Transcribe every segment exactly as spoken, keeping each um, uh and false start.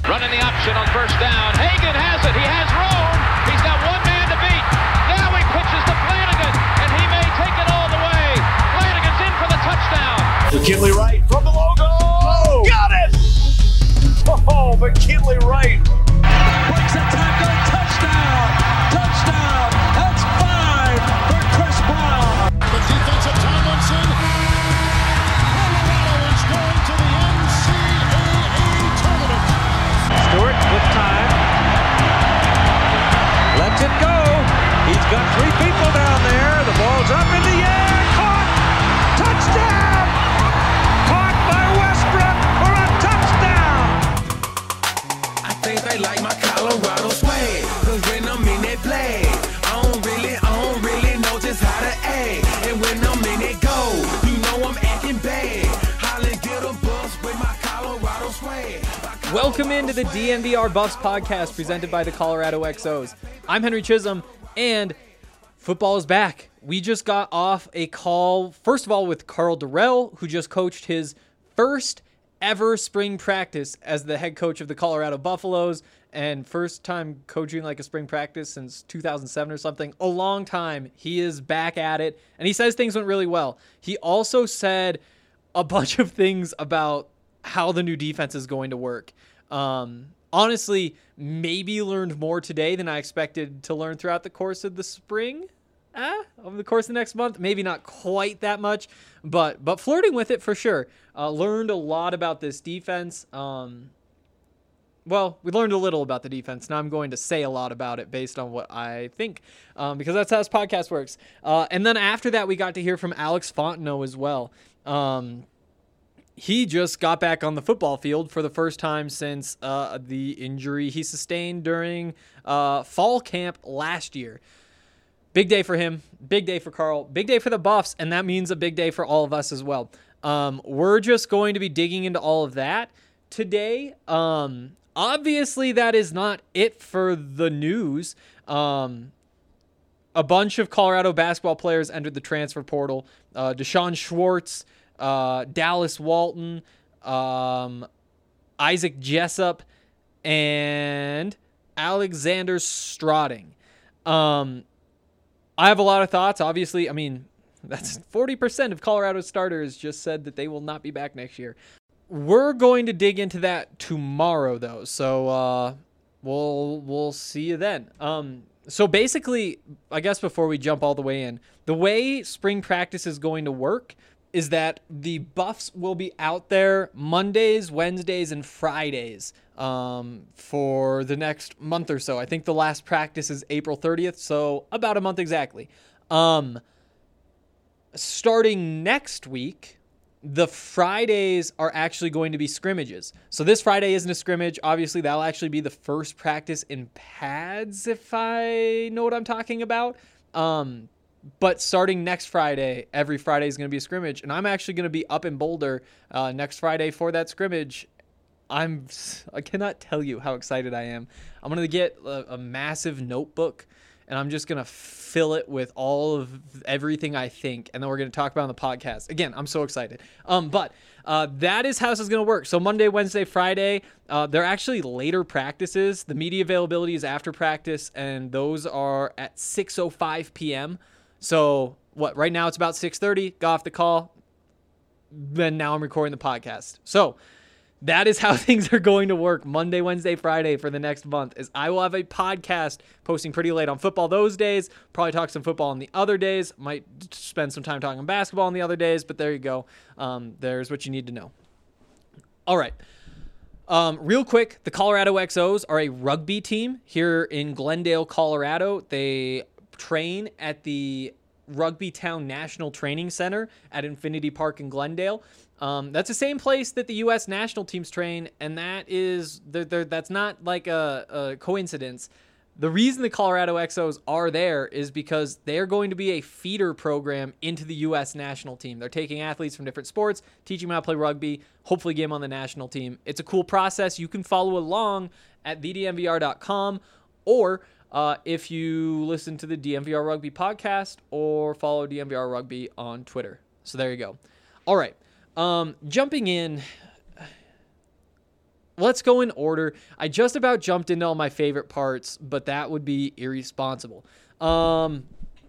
Running the option on first down. Hagan has it. He has room. He's got one man to beat. Now he pitches to Flanagan, and he may take it all the way. Flanagan's in for the touchdown. McKinley Wright from the logo. Oh, got it! Oh, McKinley Wright. Breaks a tackle. Touchdown. Touchdown. That's five for Chris Brown. The defense of Tomlinson. Colorado is going to the N C double A tournament. Stewart with time. Lets it go. He's got three people down there. The ball's up in the air. Caught. Touchdown. Caught by Westbrook for a touchdown. I think they like my Colorado swag. Cause when I'm in that play, I don't really, I don't really know just how to act. And when I'm in it go, you know I'm acting bad. Holly get a bus with my Colorado swag. Welcome into the D N V R Buffs podcast presented by the Colorado X Os. I'm Henry Chisholm, and football is back. We just got off a call, first of all, with Karl Dorrell, who just coached his first ever spring practice as the head coach of the Colorado Buffaloes, and first time coaching like a spring practice since two thousand seven or something. A long time. He is back at it, and he says things went really well. He also said a bunch of things about how the new defense is going to work. Um, honestly, maybe learned more today than I expected to learn throughout the course of the spring. Ah, over the course of the next month, maybe not quite that much, but but flirting with it for sure. Uh, learned a lot about this defense. Um, well, we learned a little about the defense. Now I'm going to say a lot about it based on what I think, um, because that's how this podcast works. Uh, and then after that, we got to hear from Alex Fontenot as well. Um, He just got back on the football field for the first time since uh, the injury he sustained during uh, fall camp last year. Big day for him. Big day for Karl. Big day for the Buffs, and that means a big day for all of us as well. Um, we're just going to be digging into all of that today. Um, obviously, that is not it for the news. Um, a bunch of Colorado basketball players entered the transfer portal. Uh, Deshaun Schwartz, Uh, Dallas Walton, um, Isaac Jessup, and Alexander Strauding. Um, I have a lot of thoughts. Obviously, I mean, that's forty percent of Colorado's starters just said that they will not be back next year. We're going to dig into that tomorrow, though, so uh, we'll we'll see you then. Um, so basically, I guess before we jump all the way in, the way spring practice is going to work is that the Buffs will be out there Mondays, Wednesdays, and Fridays um, for the next month or so. I think the last practice is April thirtieth, so about a month exactly. Um, starting next week, the Fridays are actually going to be scrimmages. So this Friday isn't a scrimmage. Obviously, that'll actually be the first practice in pads, if I know what I'm talking about. Um, But starting next Friday, every Friday is going to be a scrimmage, and I'm actually going to be up in Boulder uh, next Friday for that scrimmage. I'm I cannot tell you how excited I am. I'm going to get a, a massive notebook, and I'm just going to fill it with all of everything I think, and then we're going to talk about it on the podcast. Again, I'm so excited. Um, but uh, that is how this is going to work. So Monday, Wednesday, Friday, uh, they're actually later practices. The media availability is after practice, and those are at six oh five p.m., So what? Right now it's about six thirty. Got off the call. Then now I'm recording the podcast. So that is how things are going to work Monday, Wednesday, Friday for the next month. Is I will have a podcast posting pretty late on football those days. Probably talk some football on the other days. Might spend some time talking basketball on the other days. But there you go. Um, there's what you need to know. All right. Um, real quick, the Colorado X Os are a rugby team here in Glendale, Colorado. They train at the Rugby Town National Training Center at Infinity Park in Glendale. Um, that's the same place that the U S national teams train, and that is they're, they're, that's not like a, a coincidence. The reason the Colorado X Os are there is because they're going to be a feeder program into the U S national team. They're taking athletes from different sports, teaching them how to play rugby, hopefully get them on the national team. It's a cool process. You can follow along at v d m v r dot com, or uh, if you listen to the D M V R Rugby podcast, or follow D M V R Rugby on Twitter. So there you go. All right. Um, jumping in, let's go in order. I just about jumped into all my favorite parts, but that would be irresponsible. Um,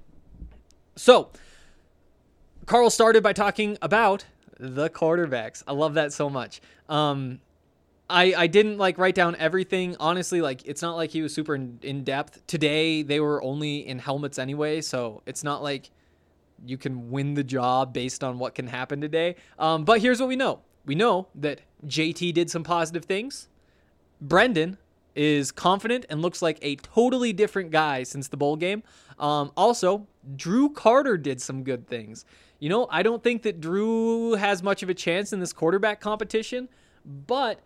so, Carl started by talking about the quarterbacks. I love that so much. Um, I, I didn't like write down everything. Honestly, like it's not like he was super in, in depth. Today, they were only in helmets anyway, so it's not like you can win the job based on what can happen today. Um, but here's what we know. We know that J T did some positive things. Brendan is confident and looks like a totally different guy since the bowl game. Um, also, Drew Carter did some good things. You know, I don't think that Drew has much of a chance in this quarterback competition, but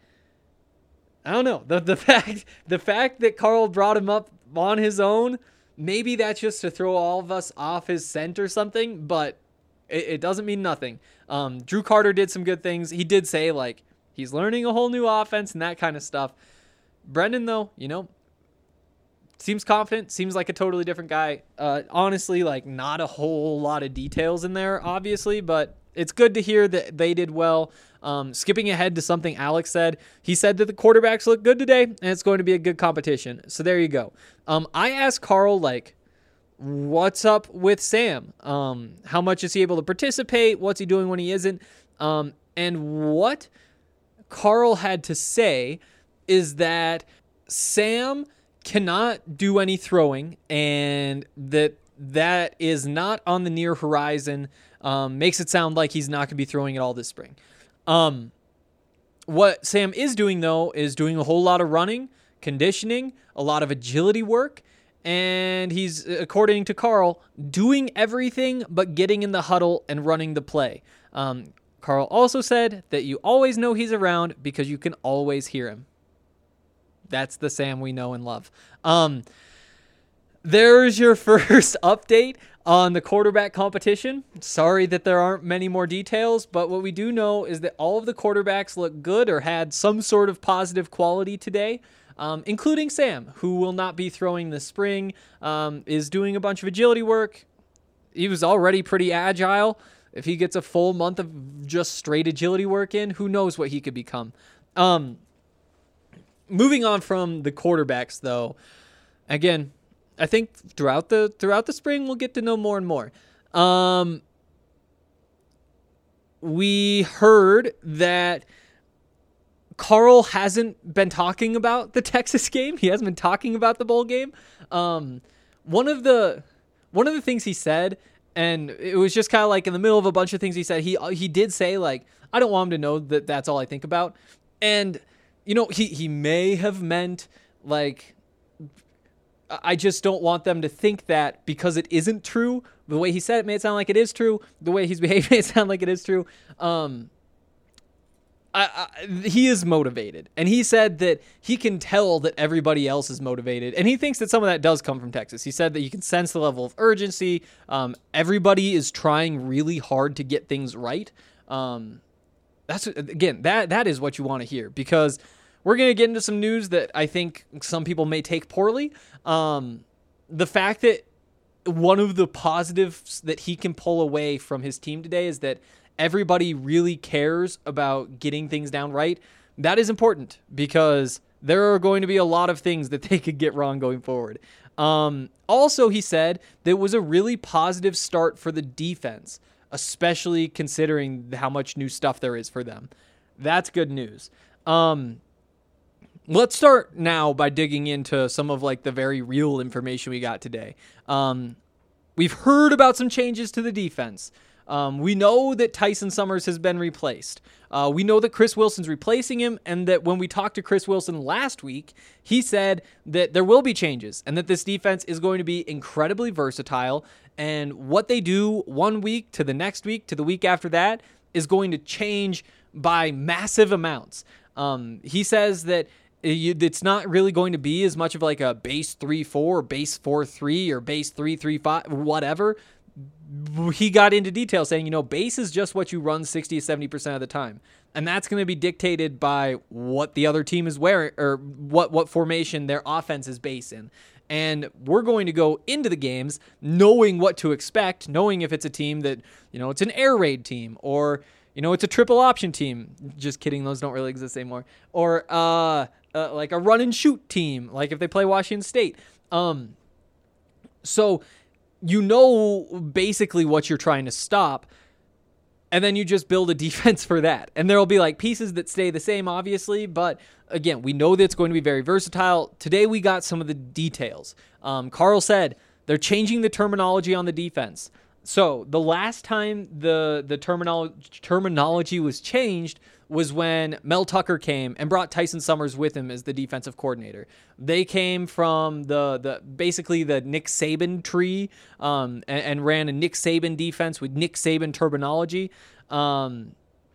I don't know. The the fact the fact that Carl brought him up on his own, maybe that's just to throw all of us off his scent or something, but it, it doesn't mean nothing. Um, Drew Carter did some good things. He did say, like, he's learning a whole new offense and that kind of stuff. Brendan, though, you know, seems confident, seems like a totally different guy. Uh, honestly, like, not a whole lot of details in there, obviously, but it's good to hear that they did well. Um, skipping ahead to something Alex said, he said that the quarterbacks look good today, and it's going to be a good competition. So there you go. Um, I asked Carl, like, what's up with Sam? Um, how much is he able to participate? What's he doing when he isn't? Um, and what Carl had to say is that Sam cannot do any throwing, and that that is not on the near horizon. Um, makes it sound like he's not going to be throwing at all this spring. Um, what Sam is doing, though, is doing a whole lot of running, conditioning, a lot of agility work, and he's, according to Carl, doing everything but getting in the huddle and running the play. Um, Carl also said that you always know he's around because you can always hear him. That's the Sam we know and love. Um, there's your first update on the quarterback competition. Sorry that there aren't many more details, but what we do know is that all of the quarterbacks look good or had some sort of positive quality today, um, including Sam, who will not be throwing this spring, um, is doing a bunch of agility work. He was already pretty agile. If he gets a full month of just straight agility work in, who knows what he could become. Um, moving on from the quarterbacks, though, again, I think throughout the throughout the spring we'll get to know more and more. Um, we heard that Carl hasn't been talking about the Texas game. He hasn't been talking about the bowl game. Um, one of the one of the things he said, and it was just kind of like in the middle of a bunch of things he said, he he did say, like, I don't want him to know that that's all I think about. And, you know, he, he may have meant, like, I just don't want them to think that because it isn't true. The way he said it made it sound like it is true. The way he's behaved made it sound like it is true. Um, I, I, he is motivated. And he said that he can tell that everybody else is motivated. And he thinks that some of that does come from Texas. He said that you can sense the level of urgency. Um, everybody is trying really hard to get things right. Um, that's again, that that is what you want to hear, because we're going to get into some news that I think some people may take poorly. Um, the fact that one of the positives that he can pull away from his team today is that everybody really cares about getting things down right. That is important because there are going to be a lot of things that they could get wrong going forward. Um, also, he said that it was a really positive start for the defense, especially considering how much new stuff there is for them. That's good news. Um, Let's start now by digging into some of like the very real information we got today. Um, we've heard about some changes to the defense. Um, we know that Tyson Summers has been replaced. Uh, we know that Chris Wilson's replacing him, and that when we talked to Chris Wilson last week, he said that there will be changes and that this defense is going to be incredibly versatile, and what they do one week to the next week to the week after that is going to change by massive amounts. Um, he says that it's not really going to be as much of like a base three four or base four three or base three three five, whatever. He got into detail saying, you know, base is just what you run sixty to seventy percent of the time. And that's going to be dictated by what the other team is wearing, or what, what formation their offense is based in. And we're going to go into the games knowing what to expect, knowing if it's a team that, you know, it's an air raid team, or, you you know, it's a triple option team. Just kidding, those don't really exist anymore. Or uh, uh like a run and shoot team, like if they play Washington State. Um, so you know basically what you're trying to stop, and then you just build a defense for that. And there'll be like pieces that stay the same, obviously, but again, we know that it's going to be very versatile. Today we got some of the details. Um, Carl said they're changing the terminology on the defense. So the last time the the terminolo- terminology was changed was when Mel Tucker came and brought Tyson Summers with him as the defensive coordinator. They came from the the basically the Nick Saban tree um, and, and ran a Nick Saban defense with Nick Saban terminology. Um,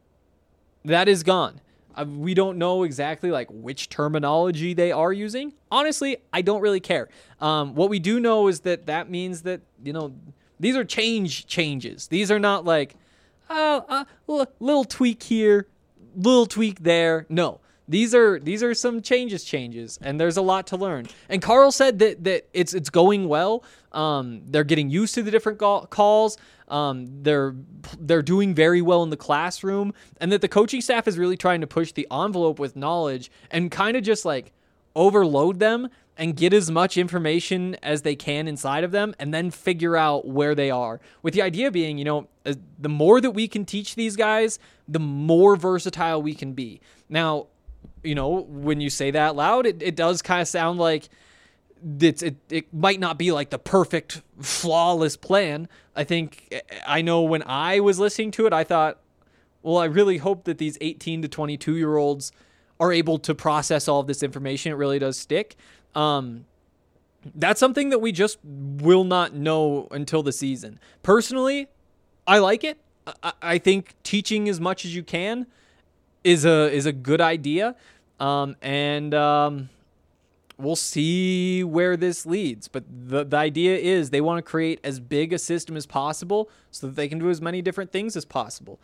that is gone. Uh, we don't know exactly like which terminology they are using. Honestly, I don't really care. Um, what we do know is that that means that, you know, these are change changes. These are not like, oh, uh, uh, little tweak here, little tweak there. No, these are these are some changes changes, and there's a lot to learn. And Carl said that that it's it's going well. Um, they're getting used to the different go- calls. Um, they're they're doing very well in the classroom, and that the coaching staff is really trying to push the envelope with knowledge and kind of just like overload them and get as much information as they can inside of them and then figure out where they are. With the idea being, you know, the more that we can teach these guys, the more versatile we can be. Now, you know, when you say that out loud, it, it does kind of sound like it's, it, it might not be like the perfect, flawless plan. I think, I know when I was listening to it, I thought, well, I really hope that these eighteen to twenty-two year olds are able to process all of this information. It really does stick. Um, that's something that we just will not know until the season. Personally, I like it. I, I think teaching as much as you can is a is a good idea, um, and um, we'll see where this leads. But the the idea is they want to create as big a system as possible so that they can do as many different things as possible.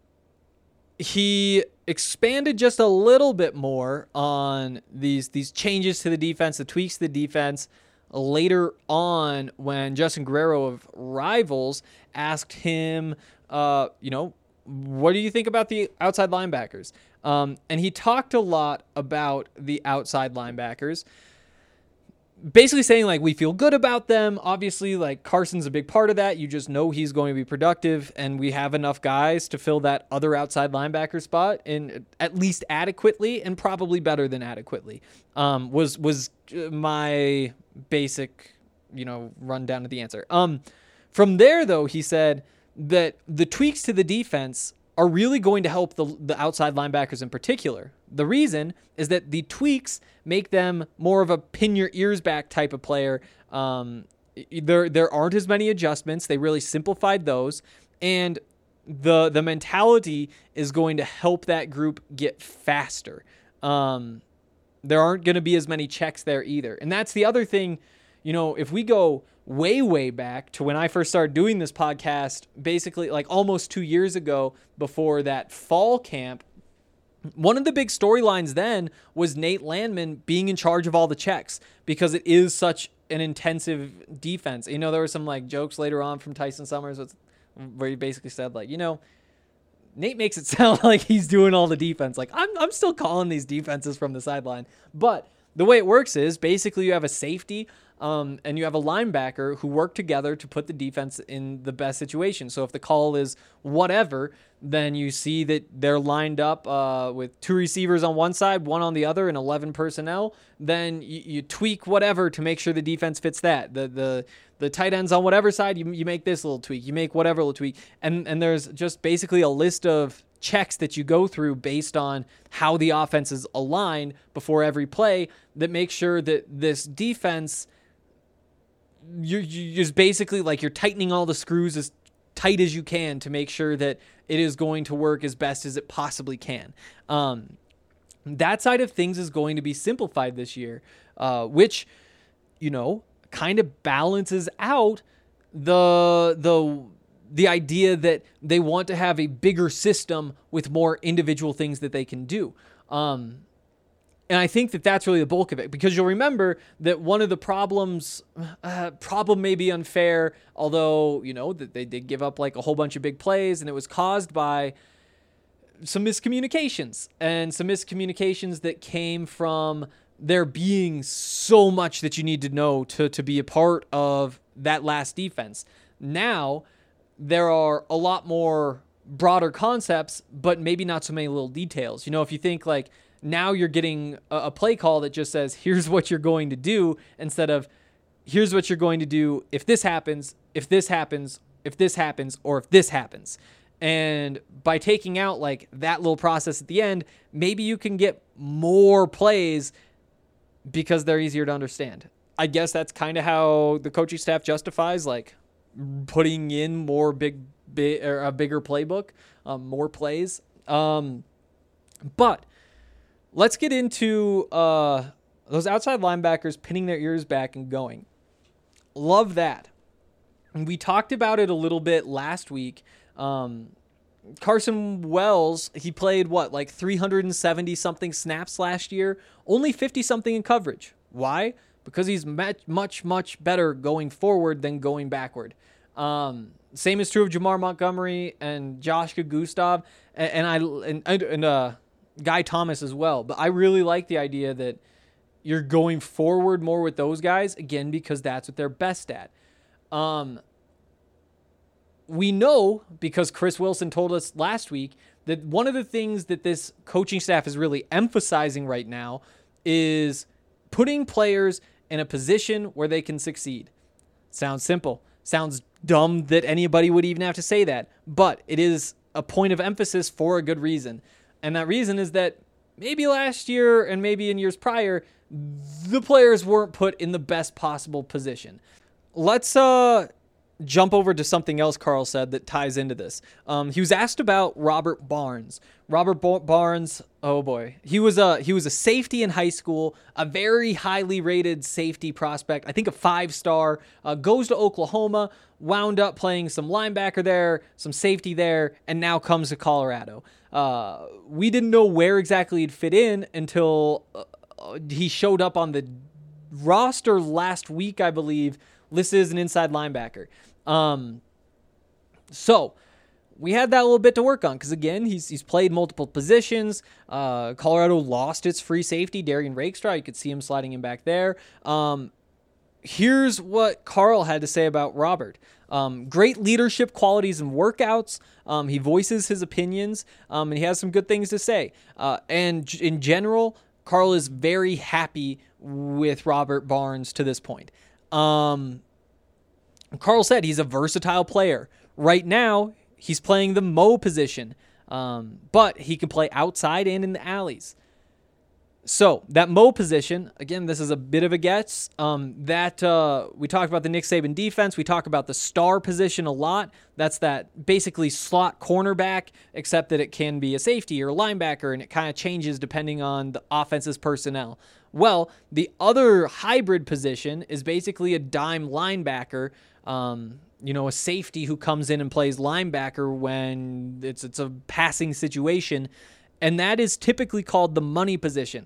He expanded just a little bit more on these these changes to the defense, the tweaks to the defense, later on when Justin Guerrero of Rivals asked him, uh, you know, what do you think about the outside linebackers? Um, and he talked a lot about the outside linebackers, basically saying like we feel good about them. Obviously, like Carson's a big part of that. You just know he's going to be productive, and we have enough guys to fill that other outside linebacker spot in at least adequately, and probably better than adequately. Um, was was my basic, you know, rundown of the answer. Um, from there though, he said that the tweaks to the defense are really going to help the the outside linebackers in particular. The reason is that the tweaks make them more of a pin your ears back type of player. Um, there there aren't as many adjustments. They really simplified those, and the the mentality is going to help that group get faster. Um, there aren't going to be as many checks there either, and that's the other thing. You know, if we go way, way back to when I first started doing this podcast, basically like almost two years ago before that fall camp, one of the big storylines then was Nate Landman being in charge of all the checks because it is such an intensive defense. You know, there were some like jokes later on from Tyson Summers where he basically said like, you know, Nate makes it sound like he's doing all the defense. Like I'm, I'm still calling these defenses from the sideline, but the way it works is basically you have a safety um, and you have a linebacker who work together to put the defense in the best situation. So if the call is whatever, then you see that they're lined up uh, with two receivers on one side, one on the other, and eleven personnel. Then you, you tweak whatever to make sure the defense fits that. The the the tight ends on whatever side, you you make this little tweak. You make whatever little tweak. And and there's just basically a list of checks that you go through based on how the offense is aligned before every play that makes sure that this defense, you're, you're just basically like you're tightening all the screws as tight as you can to make sure that it is going to work as best as it possibly can. Um, that side of things is going to be simplified this year, uh, which, you know, kind of balances out the the the idea that they want to have a bigger system with more individual things that they can do. Um, and I think that that's really the bulk of it, because you'll remember that one of the problems, uh, problem may be unfair, although, you know, that they did give up like a whole bunch of big plays, and it was caused by some miscommunications and some miscommunications that came from there being so much that you need to know to, to be a part of that last defense. Now, there are a lot more broader concepts, but maybe not so many little details. You know, if you think like now you're getting a, a play call that just says, here's what you're going to do, instead of here's what you're going to do if this happens, if this happens, if this happens, or if this happens. And by taking out like that little process at the end, maybe you can get more plays because they're easier to understand. I guess that's kind of how the coaching staff justifies like putting in more big, big or a bigger playbook, um, more plays. Um, but let's get into uh, those outside linebackers pinning their ears back and going. Love that. And we talked about it a little bit last week. Um, Carson Wells, he played what, like three hundred seventy something snaps last year, only fifty something in coverage. Why? Because he's much, much, much better going forward than going backward. Um, same is true of Jamar Montgomery and Joshua Gustav and, and I and, and uh, Guy Thomas as well. But I really like the idea that you're going forward more with those guys, again, because that's what they're best at. Um, we know, because Chris Wilson told us last week, that one of the things that this coaching staff is really emphasizing right now is putting players in a position where they can succeed. Sounds simple. Sounds dumb that anybody would even have to say that, but it is a point of emphasis for a good reason. And that reason is that maybe last year and maybe in years prior, the players weren't put in the best possible position. Let's uh, jump over to something else Carl said that ties into this. Um, he was asked about Robert Barnes. Robert Bo- Barnes, oh boy, he was a he was a safety in high school, a very highly rated safety prospect. I think a five star. Uh, goes to Oklahoma, wound up playing some linebacker there, some safety there, and now comes to Colorado. Uh, we didn't know where exactly he'd fit in until uh, he showed up on the roster last week, I believe, listed as an inside linebacker. Um, so we had that little bit to work on because, again, he's he's played multiple positions. Uh, Colorado lost its free safety, Darian Rakestraw. You could see him sliding in back there. Um, here's what Carl had to say about Robert. Um, great leadership qualities and workouts. Um, he voices his opinions, um, and he has some good things to say. Uh, and in general, Carl is very happy with Robert Barnes to this point. Um, Carl said he's a versatile player. Right now, he's playing the Mo position, um, but he can play outside and in the alleys. So that Mo position, again, this is a bit of a guess. Um, that uh, we talked about the Nick Saban defense. We talk about the star position a lot. That's that basically slot cornerback, except that it can be a safety or a linebacker, and it kind of changes depending on the offense's personnel. Well, the other hybrid position is basically a dime linebacker, um, you know, a safety who comes in and plays linebacker when it's it's a passing situation, and that is typically called the money position.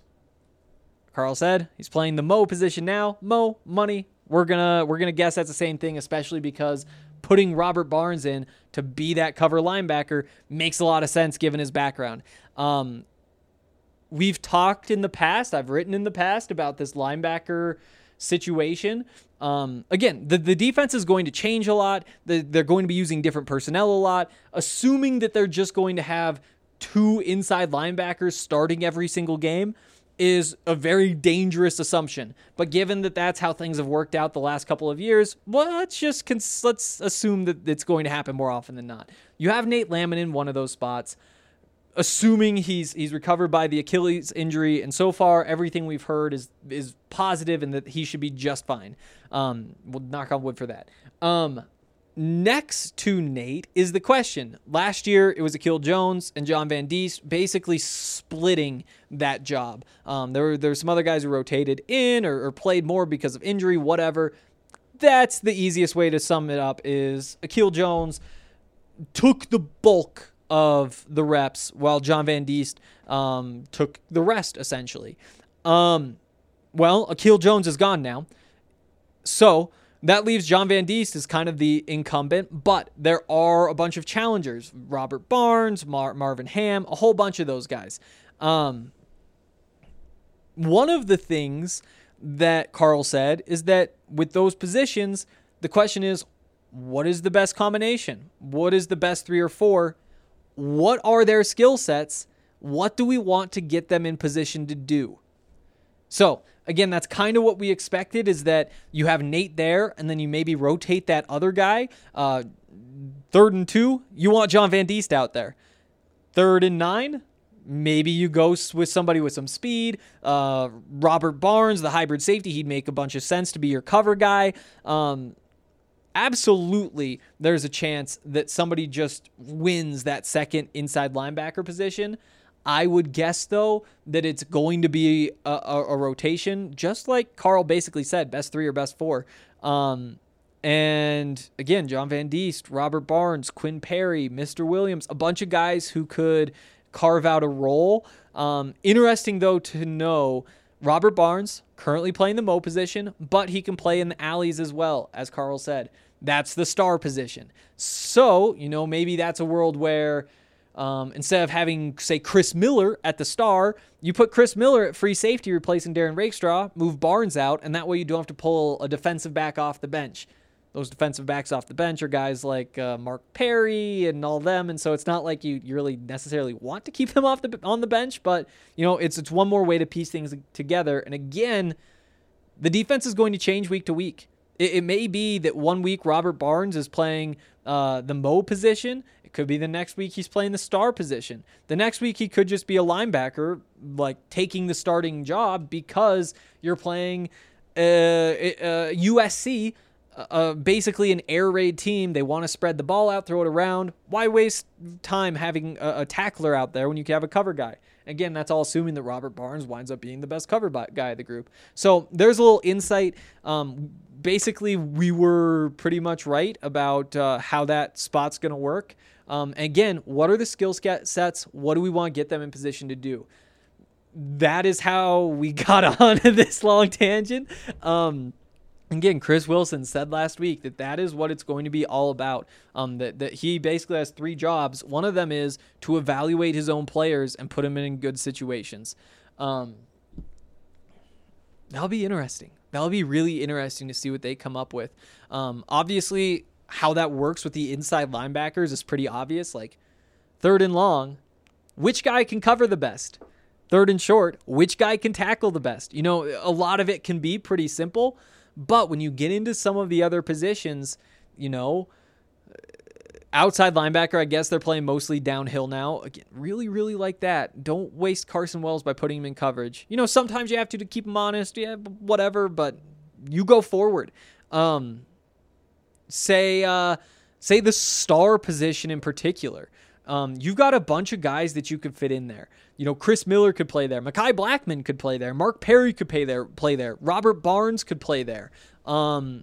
Carl said he's playing the Mo position now. Mo, money. We're gonna we're gonna guess that's the same thing, especially because putting Robert Barnes in to be that cover linebacker makes a lot of sense given his background. Um, we've talked in the past, I've written in the past about this linebacker situation. Um, again, the, the defense is going to change a lot. The, they're going to be using different personnel a lot. Assuming that they're just going to have two inside linebackers starting every single game is a very dangerous assumption. But given that that's how things have worked out the last couple of years, well, let's just cons- let's assume that it's going to happen more often than not. You have Nate Lamon in one of those spots, assuming he's he's recovered by the Achilles injury, and so far everything we've heard is is positive and that he should be just fine. Um, we'll knock on wood for that. Um, next to Nate is the question. Last year it was Akil Jones and John Van Diest basically splitting that job. Um, there were there were some other guys who rotated in or, or played more because of injury, whatever. That's the easiest way to sum it up. Is Akil Jones took the bulk of the reps while John Van Diest um, took the rest, essentially. Um, well, Akil Jones is gone now. So that leaves John Van Diest as kind of the incumbent, but there are a bunch of challengers. Robert Barnes, Mar- Marvin Ham, a whole bunch of those guys. Um, one of the things that Carl said is that with those positions, the question is, what is the best combination? What is the best three or four? What are their skill sets? What do we want to get them in position to do? So, again, that's kind of what we expected, is that you have Nate there, and then you maybe rotate that other guy. Uh, third and two, you want John Van Diest out there. Third and nine, maybe you go with somebody with some speed. Uh, Robert Barnes, the hybrid safety, he'd make a bunch of sense to be your cover guy. Um, absolutely, there's a chance that somebody just wins that second inside linebacker position. I would guess, though, that it's going to be a, a, a rotation, just like Carl basically said, best three or best four. Um, and, again, John Van Diest, Robert Barnes, Quinn Perry, Mister Williams, a bunch of guys who could carve out a role. Um, interesting, though, to know Robert Barnes, currently playing the Mo position, but he can play in the alleys as well, as Carl said. That's the star position. So, you know, maybe that's a world where Um, instead of having, say, Chris Miller at the star, you put Chris Miller at free safety replacing Darren Rakestraw, move Barnes out, and that way you don't have to pull a defensive back off the bench. Those defensive backs off the bench are guys like uh, Mark Perry and all them, and so it's not like you, you really necessarily want to keep them off the on the bench, but you know it's it's one more way to piece things together. And again, the defense is going to change week to week. It, it may be that one week Robert Barnes is playing uh, the Mo position. It could be the next week he's playing the star position. The next week he could just be a linebacker, like taking the starting job because you're playing uh, uh, U S C, uh, basically an air raid team. They want to spread the ball out, throw it around. Why waste time having a, a tackler out there when you can have a cover guy? Again, that's all assuming that Robert Barnes winds up being the best cover guy of the group. So there's a little insight. Um, basically, we were pretty much right about uh, how that spot's going to work. Um, again, what are the skill sets? What do we want to get them in position to do? That is how we got on this long tangent. Um, again, Chris Wilson said last week that that is what it's going to be all about. Um, that, that he basically has three jobs. One of them is to evaluate his own players and put them in good situations. Um, that'll be interesting. That'll be really interesting to see what they come up with. Um, obviously, how that works with the inside linebackers is pretty obvious. Like third and long, which guy can cover the best? Third and short, which guy can tackle the best? You know, a lot of it can be pretty simple, but when you get into some of the other positions, you know, outside linebacker, I guess they're playing mostly downhill now. Again, really, really like that. Don't waste Carson Wells by putting him in coverage. You know, sometimes you have to to keep him honest, yeah, whatever, but you go forward. Um, Say, uh, say the star position in particular. Um, you've got a bunch of guys that you could fit in there. You know, Chris Miller could play there. Mekhi Blackman could play there. Mark Perry could play there. Play there. Robert Barnes could play there. Um,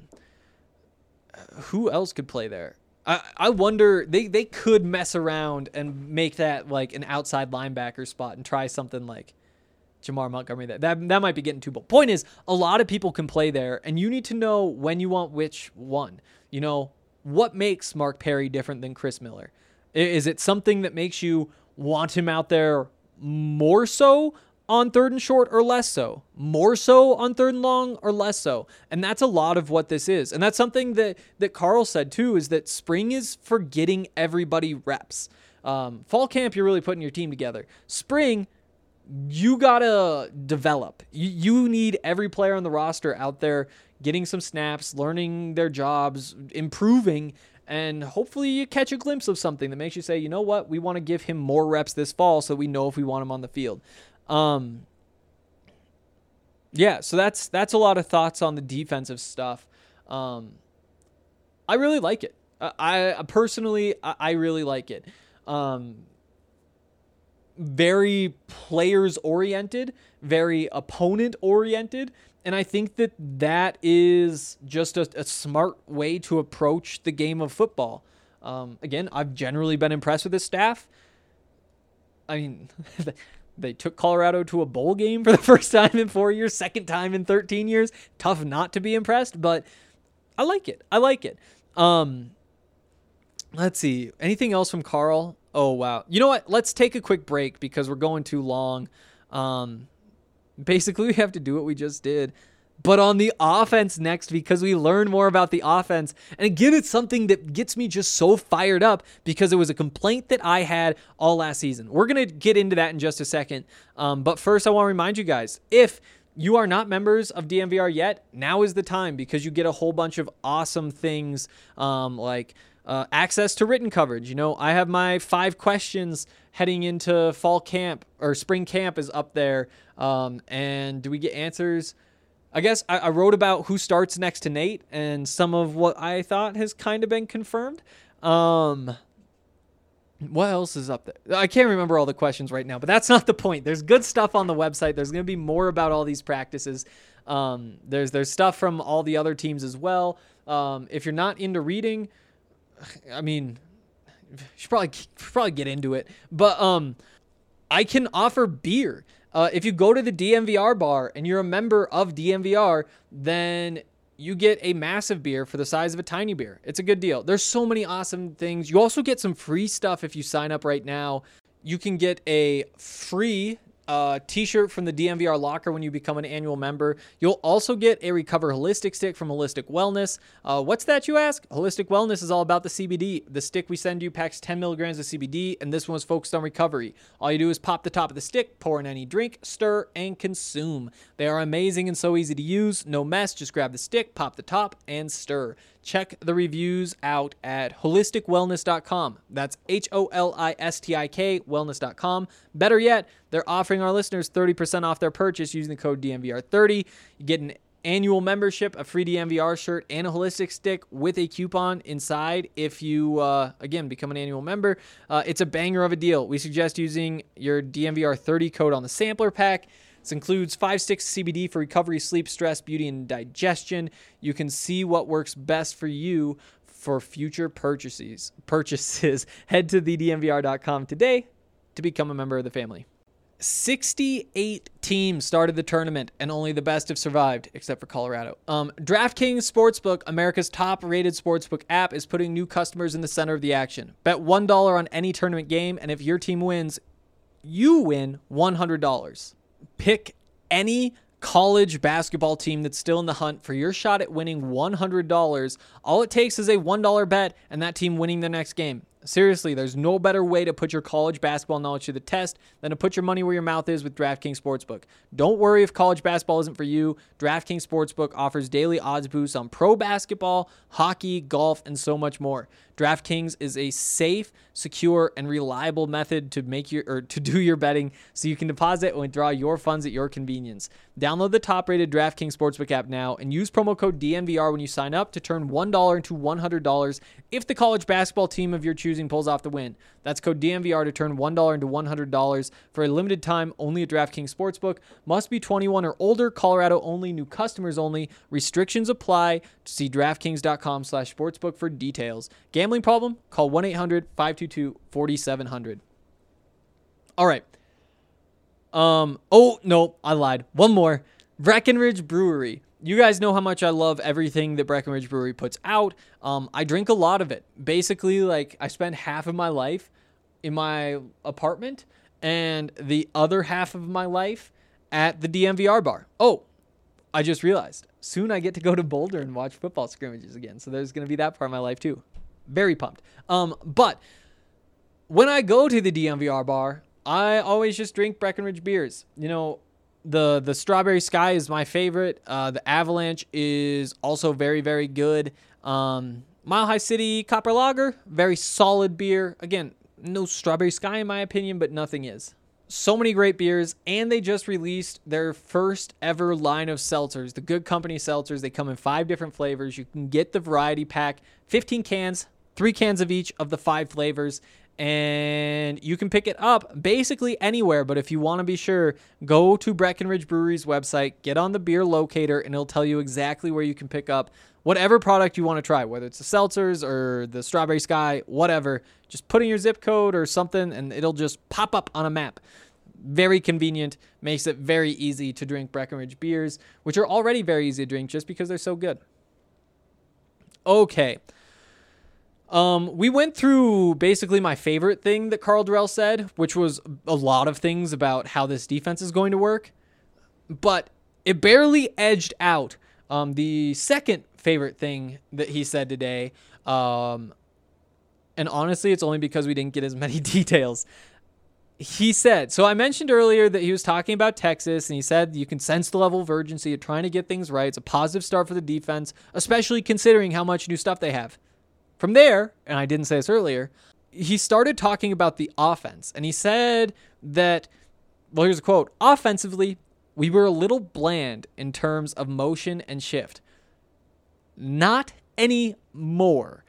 who else could play there? I, I wonder. They they could mess around and make that like an outside linebacker spot and try something like Jamar Montgomery. That, that that might be getting too bold. Point is, a lot of people can play there, and you need to know when you want which one. You know, what makes Mark Perry different than Chris Miller? Is it something that makes you want him out there more so on third and short or less so? More so on third and long or less so? And that's a lot of what this is. And that's something that, that Carl said too, is that spring is for getting everybody reps. Um, fall camp, you're really putting your team together. Spring, you gotta develop. You, you need every player on the roster out there getting some snaps, learning their jobs, improving, and hopefully you catch a glimpse of something that makes you say, you know what, we want to give him more reps this fall so we know if we want him on the field. Um, yeah, so that's that's a lot of thoughts on the defensive stuff. Um, I really like it. I, I personally, I, I really like it. Um, very players-oriented, very opponent-oriented, and I think that that is just a, a smart way to approach the game of football. Um, again, I've generally been impressed with this staff. I mean, they took Colorado to a bowl game for the first time in four years, second time in thirteen years. Tough not to be impressed, but I like it. I like it. Um, let's see. Anything else from Carl? Oh, wow. You know what? Let's take a quick break because we're going too long. Um, basically, we have to do what we just did, but on the offense next because we learn more about the offense. And again, it's something that gets me just so fired up because it was a complaint that I had all last season. We're going to get into that in just a second. Um, but first, I want to remind you guys, if you are not members of D N V R yet, now is the time because you get a whole bunch of awesome things um, like uh, access to written coverage. You know, I have my five questions heading into fall camp or spring camp is up there. Um, and do we get answers? I guess I, I wrote about who starts next to Nate and some of what I thought has kind of been confirmed. Um, What else is up there? I can't remember all the questions right now, but that's not the point. There's good stuff on the website. There's going to be more about all these practices. Um, there's there's stuff from all the other teams as well. Um, if you're not into reading, I mean, you should probably probably get into it. But um, I can offer beer. Uh, if you go to the D N V R bar and you're a member of D N V R, then you get a massive beer for the size of a tiny beer. It's a good deal. There's so many awesome things. You also get some free stuff if you sign up right now. You can get a free uh, t-shirt from the D N V R locker when you become an annual member. You'll also get a Recover Holistic stick from Holistic Wellness. Uh, what's that, you ask? Holistic Wellness is all about the C B D. The stick we send you packs ten milligrams of C B D, and this one is focused on recovery. All you do is pop the top of the stick, pour in any drink, stir, and consume. They are amazing and so easy to use. No mess. Just grab the stick, pop the top, and stir. Check the reviews out at holistic wellness dot com. That's H O L I S T I K, wellness dot com. Better yet, they're offering our listeners thirty percent off their purchase using the code D N V R thirty. You get an annual membership, a free D N V R shirt, and a holistic stick with a coupon inside if you, uh, again, become an annual member. Uh, it's a banger of a deal. We suggest using your D N V R thirty code on the sampler pack. This includes five sticks of C B D for recovery, sleep, stress, beauty, and digestion. You can see what works best for you for future purchases. Purchases. Head to the D N V R dot com today to become a member of the family. sixty-eight teams started the tournament, and only the best have survived, except for Colorado. Um, DraftKings Sportsbook, America's top-rated sportsbook app, is putting new customers in the center of the action. Bet one dollar on any tournament game, and if your team wins, you win one hundred dollars. Pick any college basketball team that's still in the hunt for your shot at winning one hundred dollars. All it takes is a one dollar bet and that team winning the next game. Seriously, there's no better way to put your college basketball knowledge to the test than to put your money where your mouth is with DraftKings Sportsbook. Don't worry if college basketball isn't for you. DraftKings Sportsbook offers daily odds boosts on pro basketball, hockey, golf, and so much more. DraftKings is a safe, secure, and reliable method to make your or to do your betting so you can deposit and withdraw your funds at your convenience. Download the top-rated DraftKings Sportsbook app now and use promo code D N V R when you sign up to turn one dollar into one hundred dollars if the college basketball team of your choosing pulls off the win. That's code D N V R to turn one dollar into one hundred dollars for a limited time only at DraftKings Sportsbook. Must be twenty-one or older. Colorado only. New customers only. Restrictions apply. See DraftKings dot com slash sportsbook for details. Gambling problem? Call one eight hundred five two two four seven zero zero. All right. Um. Oh, no, I lied. One more. Breckenridge Brewery. You guys know how much I love everything that Breckenridge Brewery puts out. Um, I drink a lot of it. Basically, like, I spend half of my life in my apartment and the other half of my life at the D N V R bar. Oh, I just realized. Soon I get to go to Boulder and watch football scrimmages again. So there's going to be that part of my life too. Very pumped. Um, but when I go to the D N V R bar, I always just drink Breckenridge beers. You know, The the Strawberry Sky is my favorite. Uh, the Avalanche is also very, very good. Um, Mile High City Copper Lager, very solid beer. Again, no Strawberry Sky in my opinion, but nothing is. So many great beers, and they just released their first ever line of seltzers, the Good Company seltzers. They come in five different flavors. You can get the variety pack, fifteen cans, three cans of each of the five flavors. And you can pick it up basically anywhere, but if you want to be sure, go to Breckenridge Brewery's website, get on the beer locator, and it'll tell you exactly where you can pick up whatever product you want to try, whether it's the seltzers or the Strawberry Sky, whatever. Just put in your zip code or something, and it'll just pop up on a map. Very convenient, makes it very easy to drink Breckenridge beers, which are already very easy to drink just because they're so good. Okay. Um, we went through basically my favorite thing that Karl Dorrell said, which was a lot of things about how this defense is going to work, but it barely edged out um, the second favorite thing that he said today. Um, and honestly, it's only because we didn't get as many details. He said, so I mentioned earlier that he was talking about Texas, and he said you can sense the level of urgency of trying to get things right. It's a positive start for the defense, especially considering how much new stuff they have. From there, and I didn't say this earlier, he started talking about the offense, and he said that, well, here's a quote, offensively, we were a little bland in terms of motion and shift. Not anymore.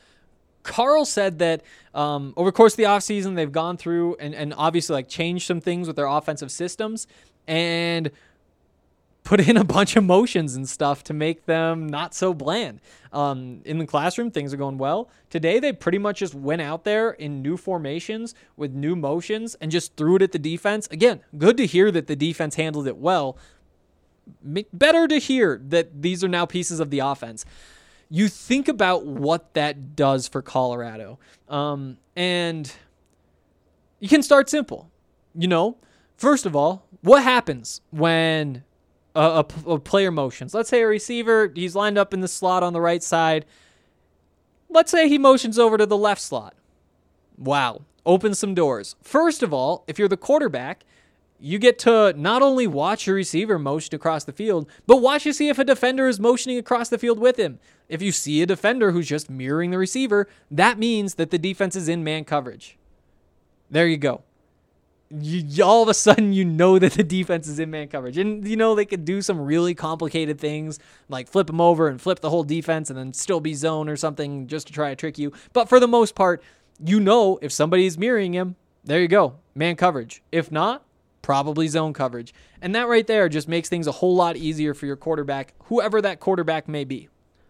Karl said that um, over the course of the offseason, they've gone through and, and obviously like changed some things with their offensive systems and put in a bunch of motions and stuff to make them not so bland. Um, in the classroom, things are going well. Today, they pretty much just went out there in new formations with new motions and just threw it at the defense. Again, good to hear that the defense handled it well. Better to hear that these are now pieces of the offense. You think about what that does for Colorado. Um, and you can start simple. You know, first of all, what happens when a, a, a player motions? Let's say a receiver, he's lined up in the slot on the right side. Let's say he motions over to the left slot. Wow. Opens some doors. First of all, if you're the quarterback, you get to not only watch your receiver motion across the field, but watch to see if a defender is motioning across the field with him. If you see a defender who's just mirroring the receiver, that means that the defense is in man coverage. There you go. You, all of a sudden, you know that the defense is in man coverage. And, you know, they could do some really complicated things, like flip them over and flip the whole defense and then still be zone or something just to try to trick you. But for the most part, you know if somebody's mirroring him, there you go, man coverage. If not, probably zone coverage. And that right there just makes things a whole lot easier for your quarterback, whoever that quarterback may be.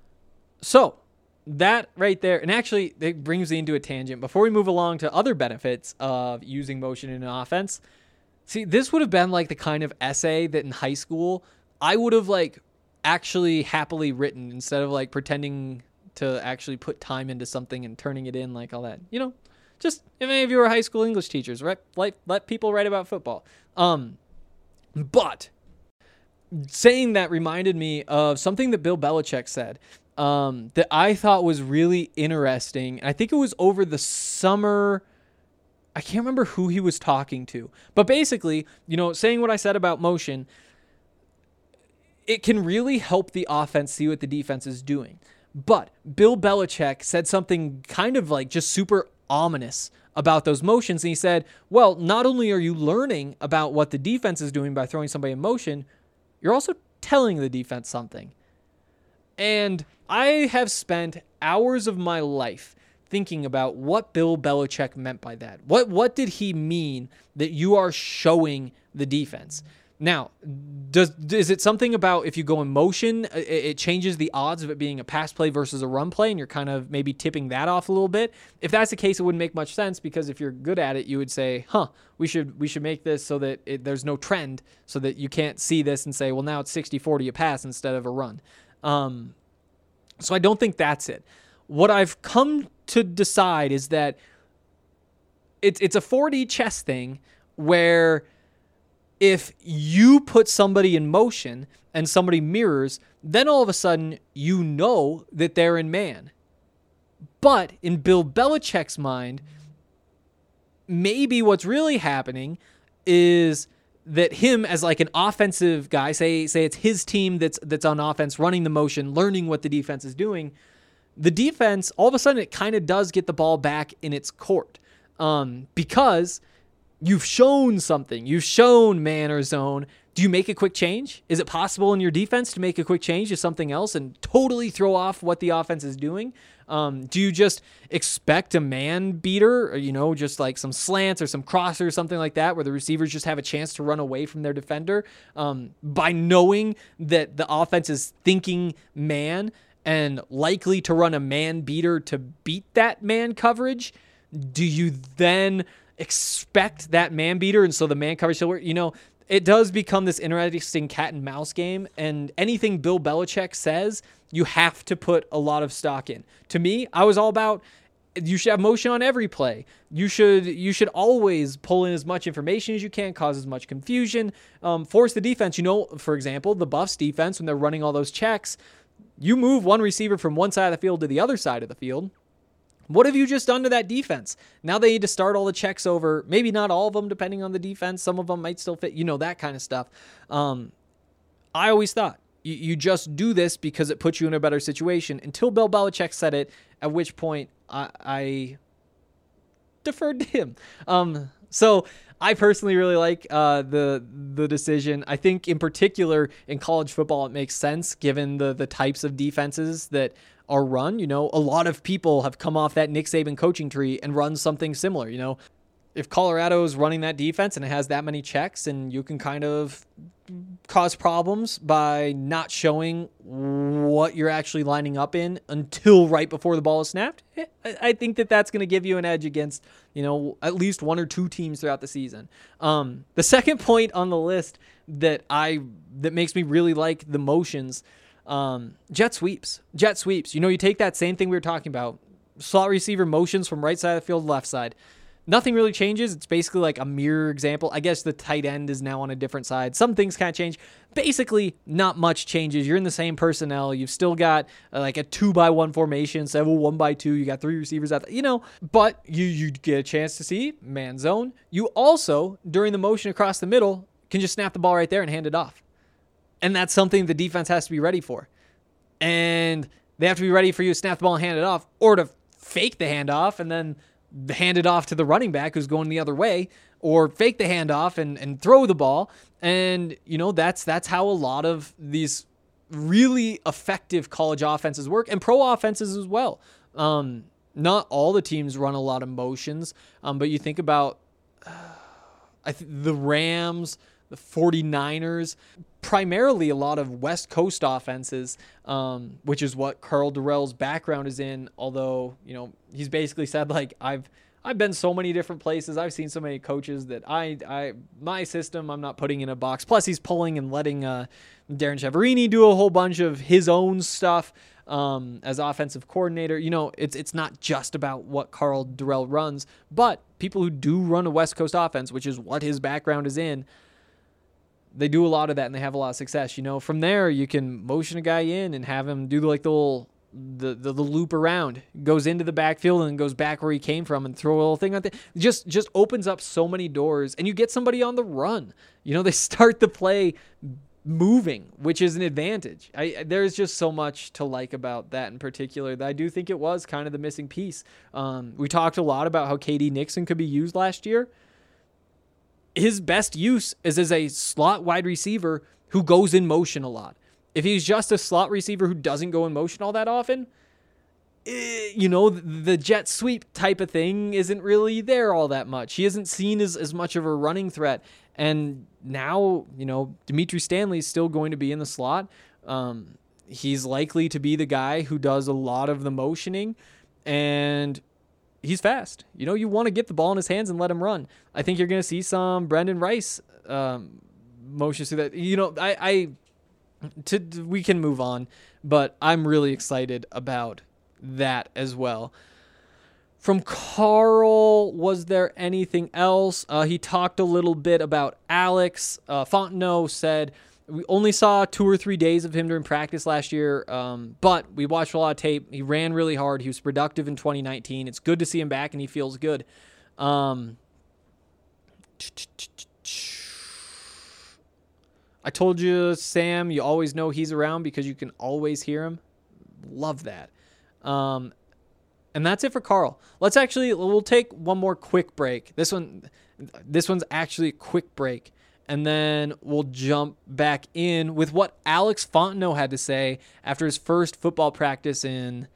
So that right there, and actually it brings me into a tangent. Before we move along to other benefits of using motion in an offense, see, this would have been like the kind of essay that in high school I would have like actually happily written instead of like pretending to actually put time into something and turning it in like all that. You know, just if any of you are high school English teachers, right? Let, let people write about football. Um, but saying that reminded me of something that Bill Belichick said um, that I thought was really interesting. I think it was over the summer. I can't remember who he was talking to, but basically, you know, saying what I said about motion, it can really help the offense see what the defense is doing. But Bill Belichick said something kind of like just super ominous about those motions. And he said, well, not only are you learning about what the defense is doing by throwing somebody in motion, you're also telling the defense something. And I have spent hours of my life thinking about what Bill Belichick meant by that. What what did he mean that you are showing the defense? Now, does is it something about if you go in motion, it, it changes the odds of it being a pass play versus a run play, and you're kind of maybe tipping that off a little bit? If that's the case, it wouldn't make much sense, because if you're good at it, you would say, huh, we should we should make this so that it, there's no trend, so that you can't see this and say, well, now it's sixty forty a pass instead of a run. Um, so I don't think that's it. What I've come to decide is that it's it's a four D chess thing where if you put somebody in motion and somebody mirrors, then all of a sudden you know that they're in man. But in Bill Belichick's mind, maybe what's really happening is that him as like an offensive guy, say say it's his team that's that's on offense, running the motion, learning what the defense is doing, the defense, all of a sudden it kind of does get the ball back in its court um, because you've shown something. You've shown man or zone. Do you make a quick change? Is it possible in your defense to make a quick change to something else and totally throw off what the offense is doing? Um, do you just expect a man beater, or, you know, just like some slants or some crosser or something like that, where the receivers just have a chance to run away from their defender um, by knowing that the offense is thinking man and likely to run a man beater to beat that man coverage? Do you then expect that man beater, and so the man coverage will work? You know, it does become this interesting cat and mouse game, and anything Bill Belichick says, you have to put a lot of stock in. To me, I was all about you should have motion on every play. You should you should always pull in as much information as you can, cause as much confusion, um, force the defense. You know, for example, the Buffs defense, when they're running all those checks, you move one receiver from one side of the field to the other side of the field. What have you just done to that defense? Now they need to start all the checks over. Maybe not all of them, depending on the defense. Some of them might still fit, you know, that kind of stuff. Um, I always thought you, you just do this because it puts you in a better situation until Bill Belichick said it, at which point I, I deferred to him. Um, so I personally really like uh, the the decision. I think in particular in college football, it makes sense given the the types of defenses that are run. You know, a lot of people have come off that Nick Saban coaching tree and run something similar. You know, if Colorado is running that defense and it has that many checks, and you can kind of cause problems by not showing what you're actually lining up in until right before the ball is snapped, I think that that's going to give you an edge against, you know, at least one or two teams throughout the season. Um, the second point on the list that I that makes me really like the motions, um, jet sweeps. Jet sweeps. You know, you take that same thing we were talking about, slot receiver motions from right side of the field, left side. Nothing really changes. It's basically like a mirror example. I guess the tight end is now on a different side. Some things kind of change. Basically, not much changes. You're in the same personnel. You've still got uh, like a two by one formation, instead of a one by two. You got three receivers out there, you know, but you, you get a chance to see man zone. You also, during the motion across the middle, can just snap the ball right there and hand it off. And that's something the defense has to be ready for. And they have to be ready for you to snap the ball and hand it off, or to fake the handoff and then hand it off to the running back who's going the other way, or fake the handoff and, and throw the ball. And, you know, that's that's how a lot of these really effective college offenses work, and pro offenses as well. Um, not all the teams run a lot of motions, um, but you think about uh, I th- the Rams, the 49ers, primarily a lot of West Coast offenses, um, which is what Karl Dorrell's background is in. Although, you know, he's basically said, like, I've I've been so many different places. I've seen so many coaches that I, I my system, I'm not putting in a box. Plus, he's pulling and letting uh, Darren Chiaverini do a whole bunch of his own stuff um, as offensive coordinator. You know, it's it's not just about what Karl Dorrell runs, but people who do run a West Coast offense, which is what his background is in, they do a lot of that and they have a lot of success. You know, from there you can motion a guy in and have him do like the little the, the the loop around, goes into the backfield and goes back where he came from and throw a little thing like that. Just just opens up so many doors, and you get somebody on the run. You know, they start the play moving, which is an advantage. I there's just so much to like about that in particular that I do think it was kind of the missing piece. Um, we talked a lot about how K D Nixon could be used last year. His best use is as a slot wide receiver who goes in motion a lot. If he's just a slot receiver who doesn't go in motion all that often, eh, you know, the jet sweep type of thing isn't really there all that much. He isn't seen as, as much of a running threat. And now, you know, Dimitri Stanley is still going to be in the slot. Um, he's likely to be the guy who does a lot of the motioning, and he's fast. You know, you want to get the ball in his hands and let him run. I think you're going to see some Brendan Rice um, motions through that. You know, I, I to we can move on, but I'm really excited about that as well. From Karl, was there anything else? Uh, he talked a little bit about Alex. Uh, Fontenot said, we only saw two or three days of him during practice last year, um, but we watched a lot of tape. He ran really hard. He was productive in twenty nineteen. It's good to see him back, and he feels good. Um, I told you, Sam, you always know he's around because you can always hear him. Love that. Um, and that's it for Karl. Let's actually, we'll take one more quick break. This one, this one's actually a quick break. And then we'll jump back in with what Alex Fontenot had to say after his first football practice in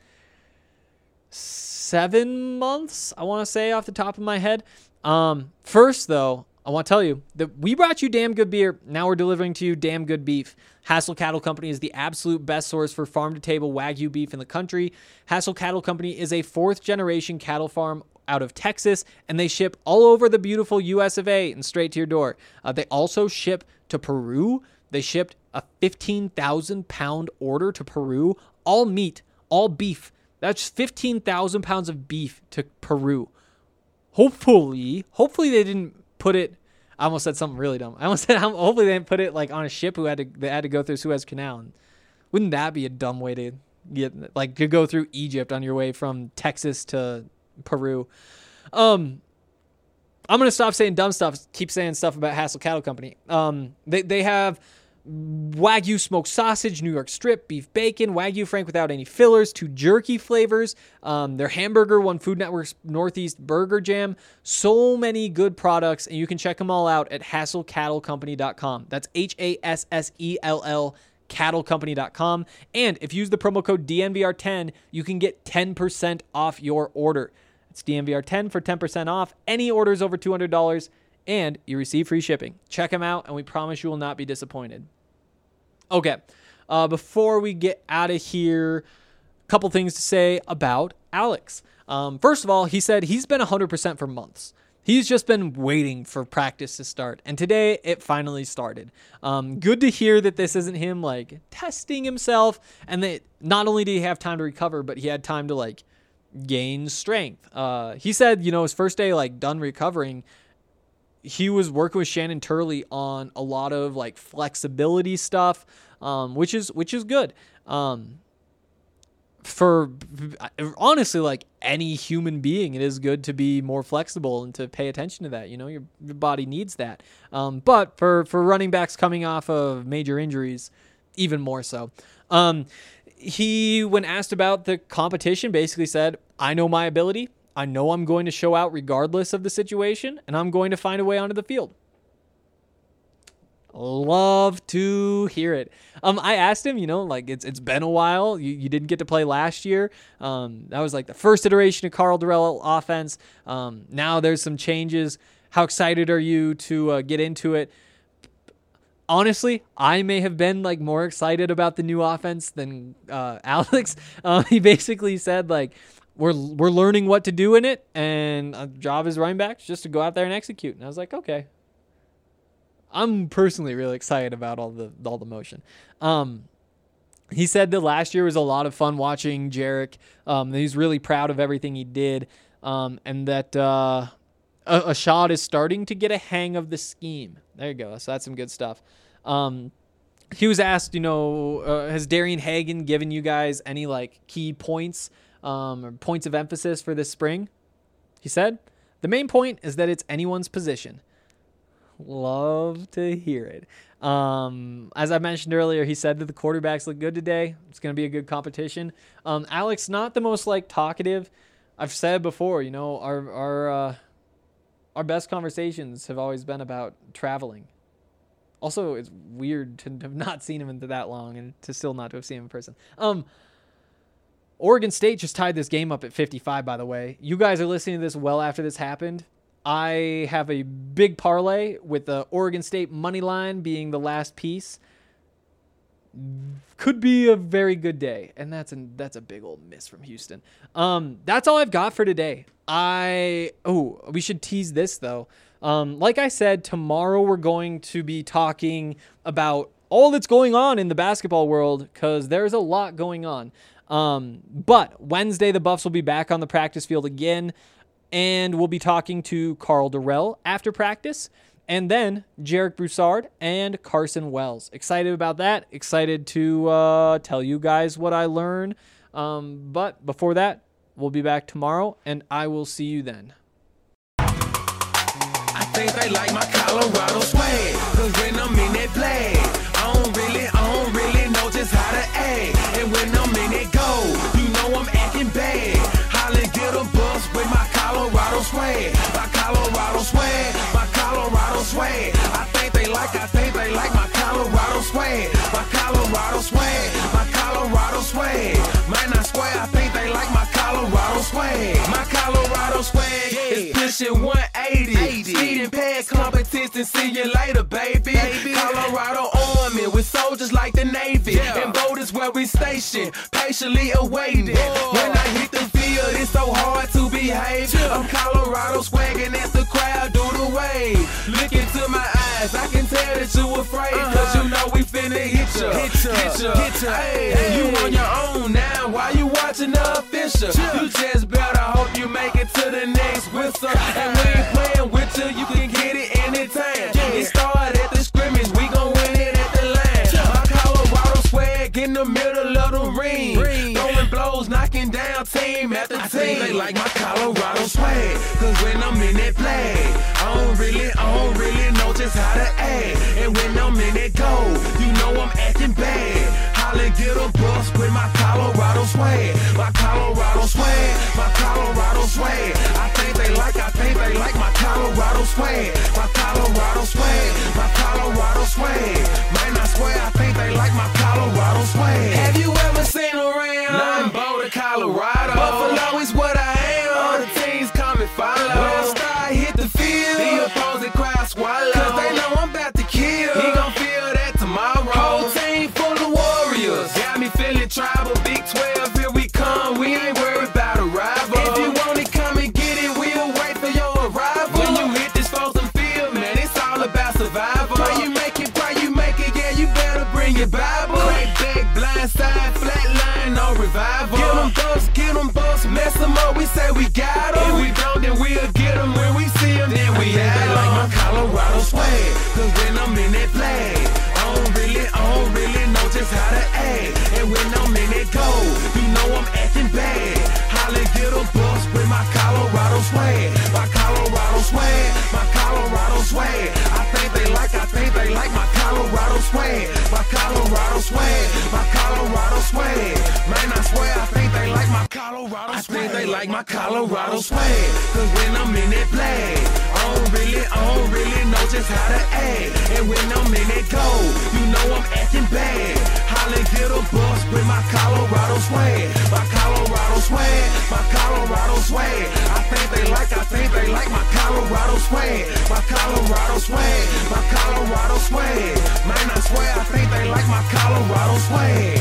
seven months, I want to say off the top of my head. Um, first, though, I want to tell you that we brought you damn good beer. Now we're delivering to you damn good beef. Hassel Cattle Company is the absolute best source for farm-to-table Wagyu beef in the country. Hassel Cattle Company is a fourth-generation cattle farm out of Texas, and they ship all over the beautiful U S of A and straight to your door. Uh, they also ship to Peru. They shipped a fifteen thousand pound order to Peru, all meat, all beef. That's fifteen thousand pounds of beef to Peru. Hopefully, hopefully they didn't put it, I almost said something really dumb. I almost said, hopefully they didn't put it like on a ship who had to, they had to go through Suez Canal. And wouldn't that be a dumb way to get, like, to go through Egypt on your way from Texas to Peru? Um, I'm going to stop saying dumb stuff, keep saying stuff about Hassel Cattle Company. Um, they, they have Wagyu smoked sausage, New York strip, beef bacon, Wagyu Frank without any fillers, two jerky flavors. Um, their hamburger won Food Network's Northeast Burger Jam. So many good products, and you can check them all out at hassel cattle company dot com. That's H A S S E L L cattle company dot com. And if you use the promo code D N V R ten, you can get ten percent off your order. It's D N V R ten for ten percent off any orders over two hundred dollars. And you receive free shipping. Check them out, and we promise you will not be disappointed. Okay, uh, before we get out of here, a couple things to say about Alex. Um, first of all, he said he's been one hundred percent for months. He's just been waiting for practice to start, and today it finally started. Um, good to hear that this isn't him, like, testing himself, and that not only did he have time to recover, but he had time to, like, gain strength. Uh, he said, you know, his first day, like, done recovering, he was working with Shannon Turley on a lot of like flexibility stuff, um, which is which is good. Um, for honestly, like any human being, it is good to be more flexible and to pay attention to that. You know, your, your body needs that. Um, but for for running backs coming off of major injuries, even more so. Um, he, when asked about the competition, basically said, "I know my ability. I know I'm going to show out regardless of the situation, and I'm going to find a way onto the field." Love to hear it. Um, I asked him, you know, like it's it's been a while. You you didn't get to play last year. Um, that was like the first iteration of Karl Dorrell offense. Um, now there's some changes. How excited are you to uh, get into it? Honestly, I may have been like more excited about the new offense than uh, Alex. Uh, he basically said like, We're we're learning what to do in it, and a job as running backs just to go out there and execute. And I was like, okay. I'm personally really excited about all the all the motion. Um, he said that last year was a lot of fun watching Jarek. Um, he's really proud of everything he did, um, and that uh, Ashad is starting to get a hang of the scheme. There you go. So that's some good stuff. Um, he was asked, you know, uh, has Darian Hagan given you guys any like key points? Um, or points of emphasis for this spring? He said, the main point is that it's anyone's position. Love to hear it. Um, as I mentioned earlier, he said that the quarterbacks look good today. It's going to be a good competition. Um, Alex, not the most like talkative. I've said before, you know, our our uh, our best conversations have always been about traveling. Also, it's weird to have not seen him in that long and to still not to have seen him in person. Um. Oregon State just tied this game up at fifty-five, by the way. You guys are listening to this well after this happened. I have a big parlay with the Oregon State money line being the last piece. Could be a very good day, and that's a, that's a big old miss from Houston. Um, that's all I've got for today. I oh, we should tease this, though. Um, like I said, tomorrow we're going to be talking about all that's going on in the basketball world because there's a lot going on. Um, but Wednesday, the Buffs will be back on the practice field again, and we'll be talking to Karl Dorrell after practice, and then Jarek Broussard and Carson Wells. Excited about that. Excited to uh, tell you guys what I learned. Um, but before that, we'll be back tomorrow, and I will see you then. I think they like my Colorado swag, cause when I'm in that play, I don't really, I don't really know just how to act. And when I'm in it go, you know I'm acting bad. Holla, get a bus with my Colorado swag, my Colorado swag, my Colorado swag. I think they like, I think they like my Colorado swag, my Colorado swag, my Colorado swag. Might not swear, I think they like my Colorado swag, my Colorado swag is pushing one eighty. Speeding past competition, see you later, baby. Colorado Army with soldiers like that. the Navy. Yeah. And boat is where we station, patiently awaiting. When I hit the field, it's so hard to behave. I'm Colorado swagging as the crowd do the wave. Look into my eyes, I can tell that you afraid. Cause you know we finna hit ya, hit ya, hit ya, hit ya. Hey, you on your own now, why you watching the official? You just better hope you make it to the next whistle. And we ain't playing with you, you can get it anytime. It started at the scrimmage, we gon' win it at the line. My Colorado swag in the middle of the ring, throwing blows, knocking down team after team. I think they like my Colorado swag, cause when I'm in that play, I don't really, I don't really know just how to act. And when I'm in that goal, you know I'm acting bad. Holla, get a bus with my Colorado swag, my Colorado swag, my Colorado swag. I think they like, I think they like my Colorado swag, my Colorado swag, my Colorado swag. Man, I swear, I think they like my Colorado swag. Have you ever seen around? Nothing Boulder, Colorado. Buffalo is what I am. All the teams come and follow. When I start hit the field, the opposing crowd swallow. Cause they know I'm about to kill. He gon' feel that tomorrow. Whole team full of warriors. Got me feeling tribal. Big twelve, here we come. We ain't worried about a rival. If you want it, come and get it. We'll wait for your arrival. When you hit this frozen field, man, it's all about survival. Pray you make it, pray you make it. Yeah, you better bring your Bible. Crack back, blind side, flat line, no revival. Get them bucks, get them bucks, mess them up. We say we got them. If we don't, then we'll get them. When we see them, then we have them. Like my Colorado swag, cause when I'm in that play, I don't really, I don't really know just how to act. And when I'm in that goal, you know I'm acting bad. Holla, get a bus with my Colorado swag, my Colorado swag, my Colorado swag. I think they like, I think they like my Colorado swag, my Colorado swag, my Colorado swag. Man, I swear, I think they like my Colorado swag. I think they like my Colorado swag, cause when I'm in that play, I don't really, I don't really know just how to act. And when I'm in that goal, you know I'm acting bad. Holla, get a bus with my Colorado swag, my Colorado swag, my Colorado swag. I think they like, I think they like my Colorado swag, my Colorado swag, my Colorado swag. Man, I swear, I think they like my Colorado swag.